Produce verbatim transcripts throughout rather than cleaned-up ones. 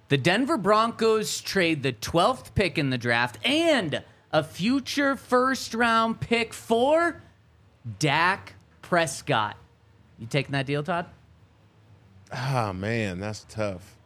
The Denver Broncos trade the twelfth pick in the draft and a future first-round pick for Dak Prescott. You taking that deal, Todd? Ah, man, that's tough.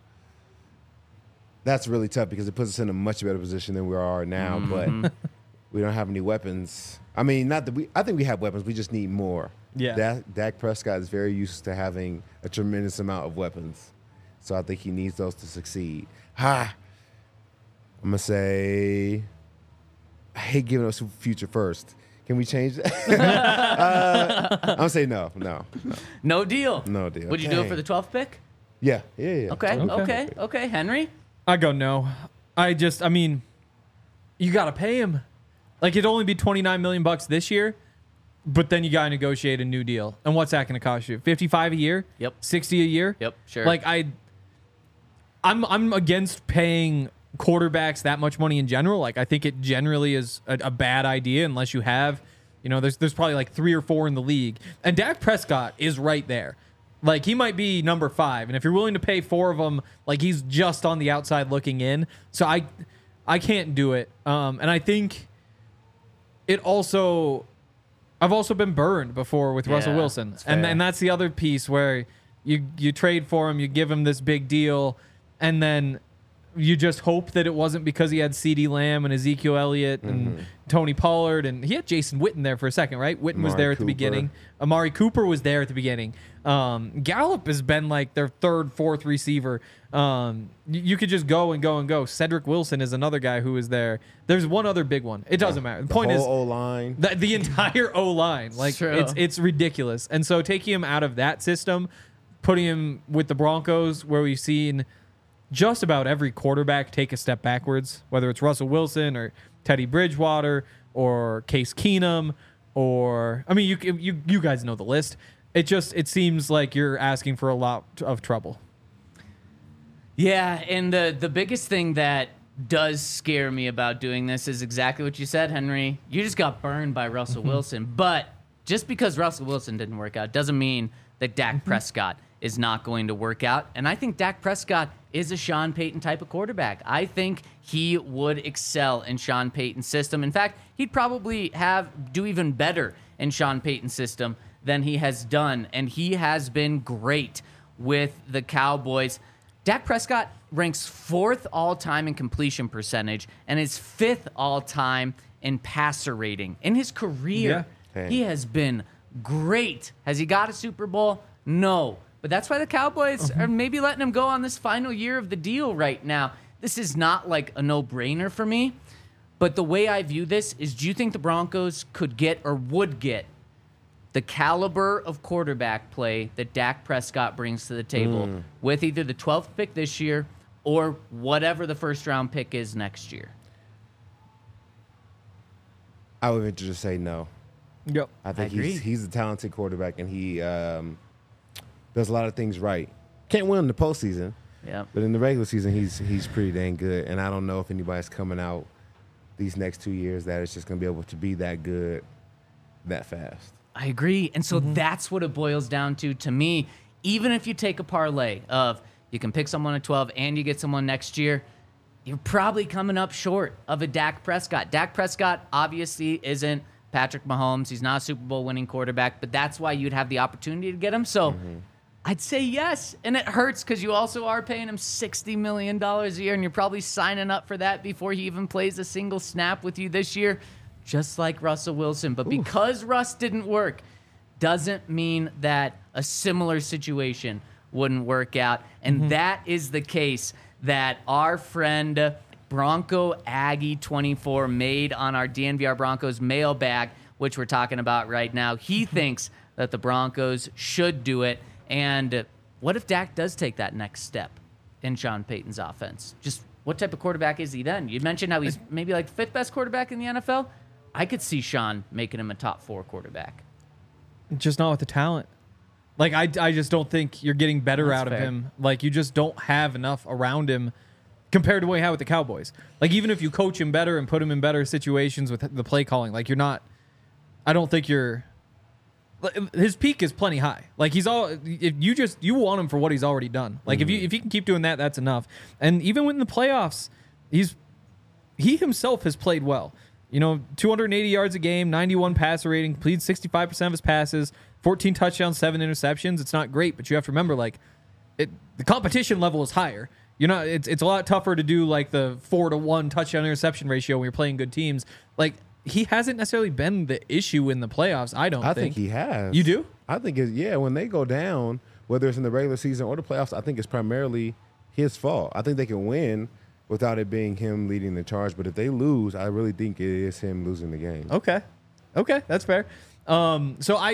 That's really tough because it puts us in a much better position than we are now, mm-hmm. but we don't have any weapons. I mean, not that we – I think we have weapons. We just need more. Yeah. Dak, Dak Prescott is very used to having a tremendous amount of weapons. So I think he needs those to succeed. Ha! I'm going to say – I hate giving us future first. Can we change that? uh, I'm going to say no, no, no. No deal? No deal. Would you Dang. do it for the twelfth pick? Yeah, yeah, yeah. Okay, Okay. okay, okay. Henry? I go no. I just, I mean, you got to pay him. Like, it'd only be twenty-nine million bucks this year, but then you got to negotiate a new deal. And what's that going to cost you? fifty-five a year? Yep. sixty a year? Yep, sure. Like, I, I'm, I'm against paying quarterbacks that much money in general. Like, I think it generally is a, a bad idea unless you have, you know, there's there's probably like three or four in the league. And Dak Prescott is right there. Like, he might be number five. And if you're willing to pay four of them, like, he's just on the outside looking in. So I I can't do it. Um, and I think it also, I've also been burned before with Yeah, Russell Wilson. that's And fair. and that's the other piece where you you trade for him, you give him this big deal, and then you just hope that it wasn't because he had CeeDee Lamb and Ezekiel Elliott and Mm-hmm. Tony Pollard, and he had Jason Witten there for a second, right? Witten was Amari there at the Cooper. beginning. Amari Cooper was there at the beginning. Um, Gallup has been like their third, fourth receiver. Um, you, you could just go and go and go. Cedric Wilson is another guy who is there. There's one other big one. It doesn't matter. The, The point whole is O-line. the, the entire O line, like True. it's it's ridiculous. And so taking him out of that system, putting him with the Broncos, where we've seen just about every quarterback take a step backwards, whether it's Russell Wilson or Teddy Bridgewater or Case Keenum, or I mean, you you you guys know the list. It just it seems like you're asking for a lot of trouble. Yeah, and the the biggest thing that does scare me about doing this is exactly what you said, Henry. You just got burned by Russell Wilson. But just because Russell Wilson didn't work out doesn't mean that Dak Prescott is not going to work out. And I think Dak Prescott is a Sean Payton type of quarterback. I think he would excel in Sean Payton's system. In fact, he'd probably have do even better in Sean Payton's system than he has done. And he has been great with the Cowboys. Dak Prescott ranks fourth all-time in completion percentage and is fifth all-time in passer rating. In his career, Yeah. he has been great. Has he got a Super Bowl? No. But that's why the Cowboys are maybe letting him go on this final year of the deal right now. This is not like a no-brainer for me. But the way I view this is, do you think the Broncos could get or would get the caliber of quarterback play that Dak Prescott brings to the table Mm. with either the twelfth pick this year or whatever the first-round pick is next year? I would venture to say no. Yep. I think I agree. he's he's a talented quarterback, and he um, does a lot of things right. Can't win in the postseason, Yeah. but in the regular season, he's he's pretty dang good. And I don't know if anybody's coming out these next two years that is just going to be able to be that good that fast. I agree. And so that's what it boils down to to me. Even if you take a parlay of you can pick someone at twelve and you get someone next year, you're probably coming up short of a Dak Prescott. Dak Prescott obviously isn't Patrick Mahomes. He's not a Super Bowl winning quarterback, but that's why you'd have the opportunity to get him. So I'd say yes. And it hurts because you also are paying him sixty million dollars a year, and you're probably signing up for that before he even plays a single snap with you this year, just like Russell Wilson. But because Russ didn't work, doesn't mean that a similar situation wouldn't work out. And that is the case that our friend Bronco Aggie twenty-four made on our D N V R Broncos mailbag, which we're talking about right now. He thinks that the Broncos should do it. And what if Dak does take that next step in Sean Payton's offense? Just what type of quarterback is he then? You mentioned how he's maybe like fifth best quarterback in the N F L. I could see Sean making him a top four quarterback. Just not with the talent. Like, I, I just don't think you're getting better That's out of fair. him. Like, you just don't have enough around him compared to what you have with the Cowboys. Like, even if you coach him better and put him in better situations with the play calling, like, you're not, I don't think you're, his peak is plenty high. Like he's all if you just you want him for what he's already done. Like mm-hmm. if you if you can keep doing that, that's enough. And even in the playoffs, he's he himself has played well. You know, two hundred eighty yards a game, ninety-one passer rating, completed sixty-five percent of his passes, fourteen touchdowns, seven interceptions. It's not great, but you have to remember, like, it, the competition level is higher. You know, it's it's a lot tougher to do like the four to one touchdown interception ratio when you're playing good teams. Like he hasn't necessarily been the issue in the playoffs. I don't. I think. think he has. You do? I think it, yeah. When they go down, whether it's in the regular season or the playoffs, I think it's primarily his fault. I think they can win without it being him leading the charge. But if they lose, I really think it is him losing the game. Okay. Okay, that's fair. Um, so I,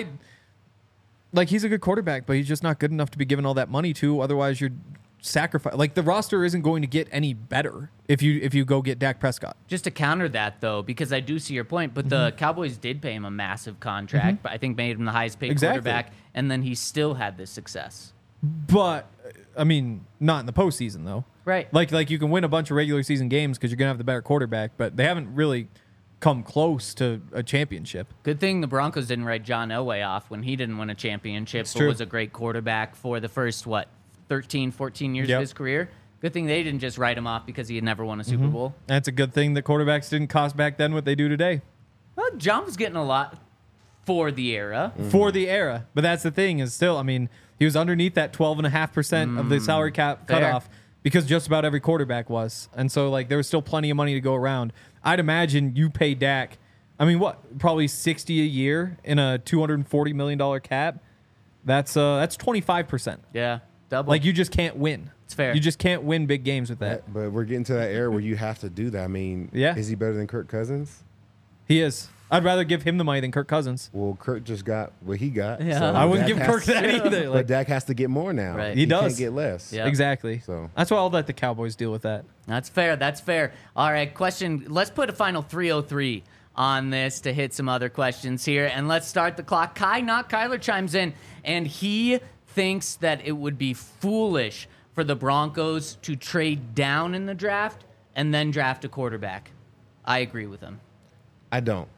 like, he's a good quarterback, but he's just not good enough to be given all that money to. Otherwise, you're sacrifice. Like, the roster isn't going to get any better if you if you go get Dak Prescott. Just to counter that, though, because I do see your point, but mm-hmm. the Cowboys did pay him a massive contract, mm-hmm. but I think made him the highest paid exactly. quarterback, and then he still had this success. But, I mean, not in the postseason, though. Right. Like, like you can win a bunch of regular season games because you're going to have the better quarterback, but they haven't really come close to a championship. Good thing the Broncos didn't write John Elway off when he didn't win a championship, it's but true. was a great quarterback for the first, what, thirteen, fourteen years yep. of his career. Good thing they didn't just write him off because he had never won a Super mm-hmm. Bowl. That's a good thing that quarterbacks didn't cost back then what they do today. Well, John was getting a lot for the era. Mm-hmm. For the era. But that's the thing is still, I mean, he was underneath that twelve point five percent mm, of the salary cap fair. cutoff because just about every quarterback was. And so, like, there was still plenty of money to go around. I'd imagine you pay Dak, I mean, what, probably sixty a year in a two hundred forty million dollars cap? That's uh, that's twenty-five percent. Yeah, double. Like, you just can't win. It's fair. You just can't win big games with that. But we're getting to that era where you have to do that. I mean, yeah. is he better than Kirk Cousins? He is. I'd rather give him the money than Kirk Cousins. Well, Kirk just got what he got. Yeah. So I wouldn't Dak give has Kirk that to, either. But Like, Dak has to get more now. Right. He He does. can't get less. Yeah. exactly. So that's why I'll let the Cowboys deal with that. That's fair. That's fair. All right, question. Let's put a final three oh three on this to hit some other questions here. And let's start the clock. Kai, not Kyler, chimes in, and he thinks that it would be foolish for the Broncos to trade down in the draft and then draft a quarterback. I agree with him. I don't.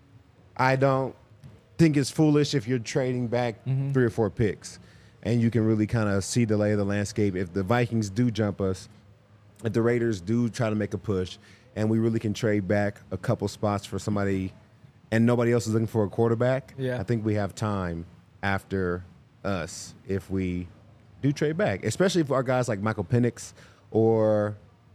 I don't think it's foolish if you're trading back mm-hmm. three or four picks and you can really kind of see the lay of the landscape. If the Vikings do jump us, if the Raiders do try to make a push, and we really can trade back a couple spots for somebody and nobody else is looking for a quarterback, yeah. I think we have time after us if we do trade back, especially for our guys like Michael Penix or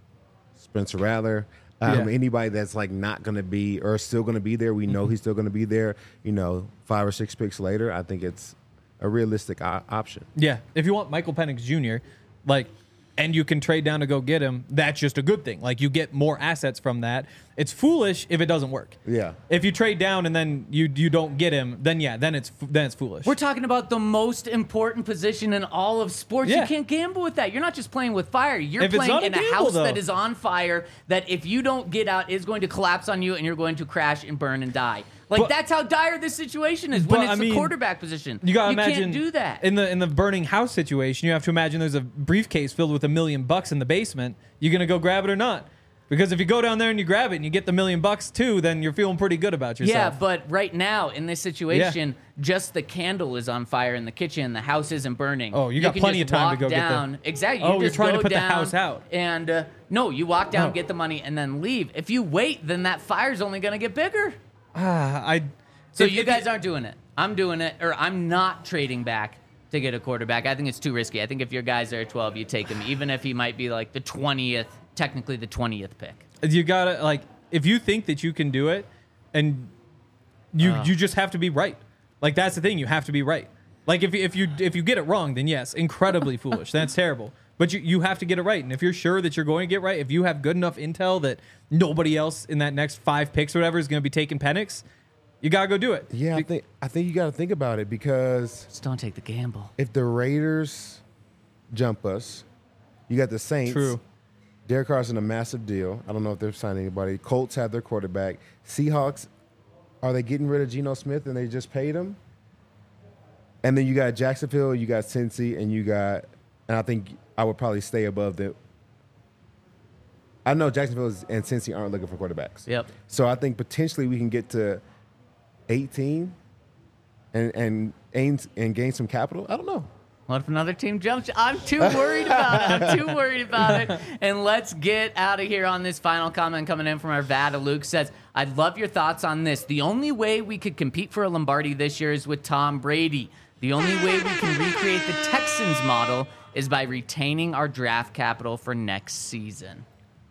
Spencer Rattler. Um, yeah. Anybody that's like not going to be or still going to be there, we know mm-hmm. he's still going to be there. You know, five or six picks later, I think it's a realistic o- option. Yeah, if you want Michael Penix Junior, like, and you can trade down to go get him, that's just a good thing. Like, you get more assets from that. It's foolish if it doesn't work. Yeah. If you trade down and then you you don't get him, then yeah, then it's then it's foolish. We're talking about the most important position in all of sports. Yeah. You can't gamble with that. You're not just playing with fire. You're If it's playing not a in a gamble, house though. that is on fire that if you don't get out is going to collapse on you and you're going to crash and burn and die. Like, But- that's how dire this situation is when But, it's I the mean, quarterback position. You gotta you imagine can't do that. in the in the burning house situation. You have to imagine there's a briefcase filled with a million bucks in the basement. You gonna go grab it or not? Because if you go down there and you grab it and you get the million bucks too, then you're feeling pretty good about Yeah, yourself. but right now in this situation, just the candle is on fire in the kitchen. The house isn't burning. Oh, you got can plenty just of time to walk go get the- down. Exactly. Oh, you you're just trying to go put the down house out. And uh, no, you walk down, Oh. get the money, and then leave. If you wait, then that fire's only going to get bigger. Ah, I. So if- you if guys aren't doing it. I'm doing it, or I'm not trading back to get a quarterback. I think it's too risky. I think if your guys are at twelve, you take him, even if he might be like the twentieth, technically the twentieth pick. You gotta, like, if you think that you can do it, and you Oh. you just have to be right. Like, that's the thing. You have to be right. Like, if if you if you get it wrong, then yes, incredibly foolish. That's terrible. But you you have to get it right. And if you're sure that you're going to get right, if you have good enough intel that nobody else in that next five picks or whatever is going to be taking Penix, you gotta go do it. Yeah, I think I think you got to think about it because Just don't take the gamble. if the Raiders jump us, you got the Saints. True. Derek Carr's in a massive deal. I don't know if they've signed anybody. Colts have their quarterback. Seahawks, are they getting rid of Geno Smith and they just paid him? And then you got Jacksonville, you got Cincy, and you got, and I think I would probably stay above the. I know Jacksonville is- and Cincy aren't looking for quarterbacks. Yep. So I think potentially we can get to eighteen and and aim and gain some capital? I don't know. What if another team jumps? I'm too worried about it. I'm too worried about it. And let's get out of here on this final comment coming in from our Vada. Luke says, I'd love your thoughts on this. The only way we could compete for a Lombardi this year is with Tom Brady. The only way we can recreate the Texans model is by retaining our draft capital for next season.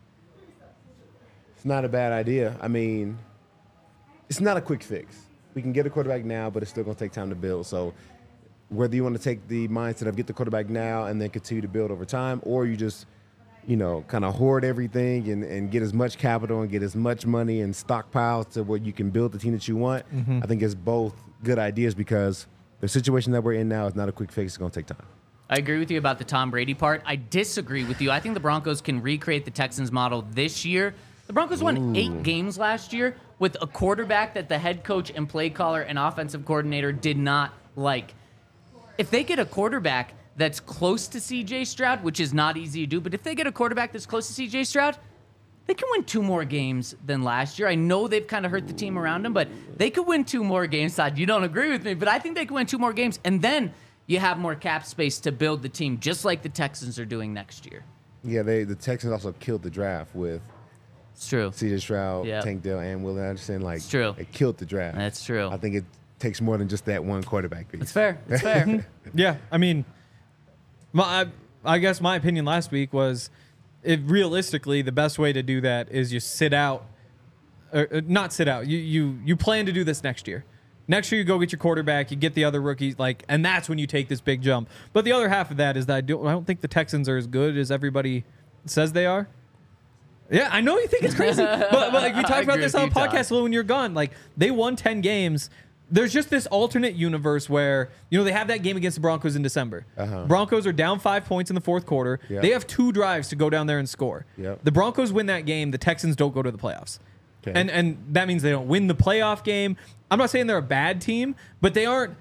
It's not a bad idea. I mean, it's not a quick fix. We can get a quarterback now, but it's still going to take time to build. So whether you want to take the mindset of get the quarterback now and then continue to build over time, or you just, you know, kind of hoard everything and, and get as much capital and get as much money and stockpile to where you can build the team that you want, mm-hmm. I think it's both good ideas because the situation that we're in now is not a quick fix. It's going to take time. I agree with you about the Tom Brady part. I disagree with you. I think the Broncos can recreate the Texans model this year. The Broncos won Ooh. eight games last year with a quarterback that the head coach and play caller and offensive coordinator did not like. If they get a quarterback that's close to C J Stroud, which is not easy to do, but if they get a quarterback that's close to C J Stroud, they can win two more games than last year. I know they've kind of hurt the team around them, but they could win two more games. Todd, you don't agree with me, but I think they could win two more games, and then you have more cap space to build the team, just like the Texans are doing next year. Yeah, they the Texans also killed the draft with it's true. C J Stroud, yep. Tank Dell, and Will Anderson. Like, it's true. They killed the draft. That's true. I think it takes more than just that one quarterback piece. That's fair. That's fair. Yeah, I mean, my, I, I guess my opinion last week was, it, realistically, the best way to do that is you sit out, or, or not sit out. You you you plan to do this next year. Next year, you go get your quarterback, you get the other rookies, like, and that's when you take this big jump. But the other half of that is that I don't, I don't think the Texans are as good as everybody says they are. Yeah, I know you think it's crazy, but, but like we talked about this on the podcast when you're gone. Like, they won ten games. There's just this alternate universe where, you know, they have that game against the Broncos in December. Uh-huh. Broncos are down five points in the fourth quarter. Yep. They have two drives to go down there and score. Yep. The Broncos win that game. The Texans don't go to the playoffs. Okay. And and that means they don't win the playoff game. I'm not saying they're a bad team, but they aren't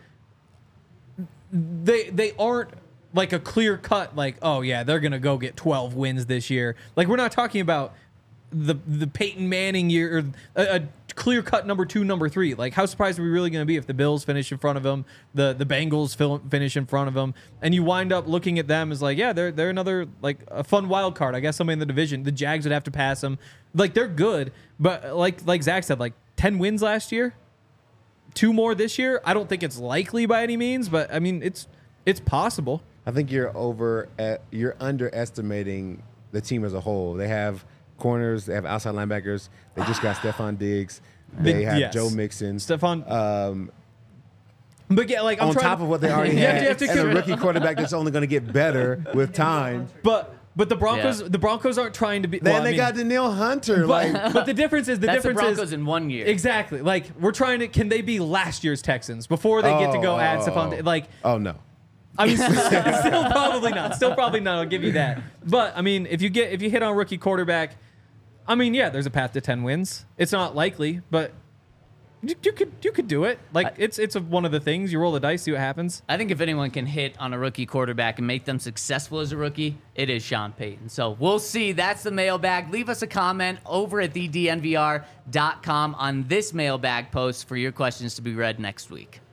they they aren't like a clear cut, like, oh yeah, they're gonna go get twelve wins this year. Like, we're not talking about the the Peyton Manning year, or a, a clear cut number two, number three. Like, how surprised are we really going to be if the Bills finish in front of them, the the Bengals finish in front of them, and you wind up looking at them as like, yeah, they're they're another, like, a fun wild card. I guess somebody in the division. The Jags would have to pass them. Like, they're good, but like like Zach said, like ten wins last year, two more this year. I don't think it's likely by any means, but I mean, it's it's possible. I think you're over at, you're underestimating the team as a whole. They have corners, they have outside linebackers. They just got Stephon Diggs. They have yes. Joe Mixon. Stephon. Um, but yeah, like I'm on trying top to, of what they already you had, have to, you have to and a rookie quarterback that's only going to get better with time. But but the Broncos, Yeah. the Broncos aren't trying to be. Then well, they I mean, got Danielle Hunter. But, like, but the difference is the That's the difference Broncos is in one year. exactly. Like, we're trying to. Can they be last year's Texans before they get to go Oh, add oh, Stephon? oh. Like, oh no. I mean, still probably not. Still probably not. I'll give you that. But I mean, if you get if you hit on rookie quarterback, I mean, yeah, there's a path to ten wins. It's not likely, but you, you could you could do it. Like, I, it's it's a, one of the things. You roll the dice, see what happens. I think if anyone can hit on a rookie quarterback and make them successful as a rookie, it is Sean Payton. So we'll see. That's the mailbag. Leave us a comment over at the D N V R dot com on this mailbag post for your questions to be read next week.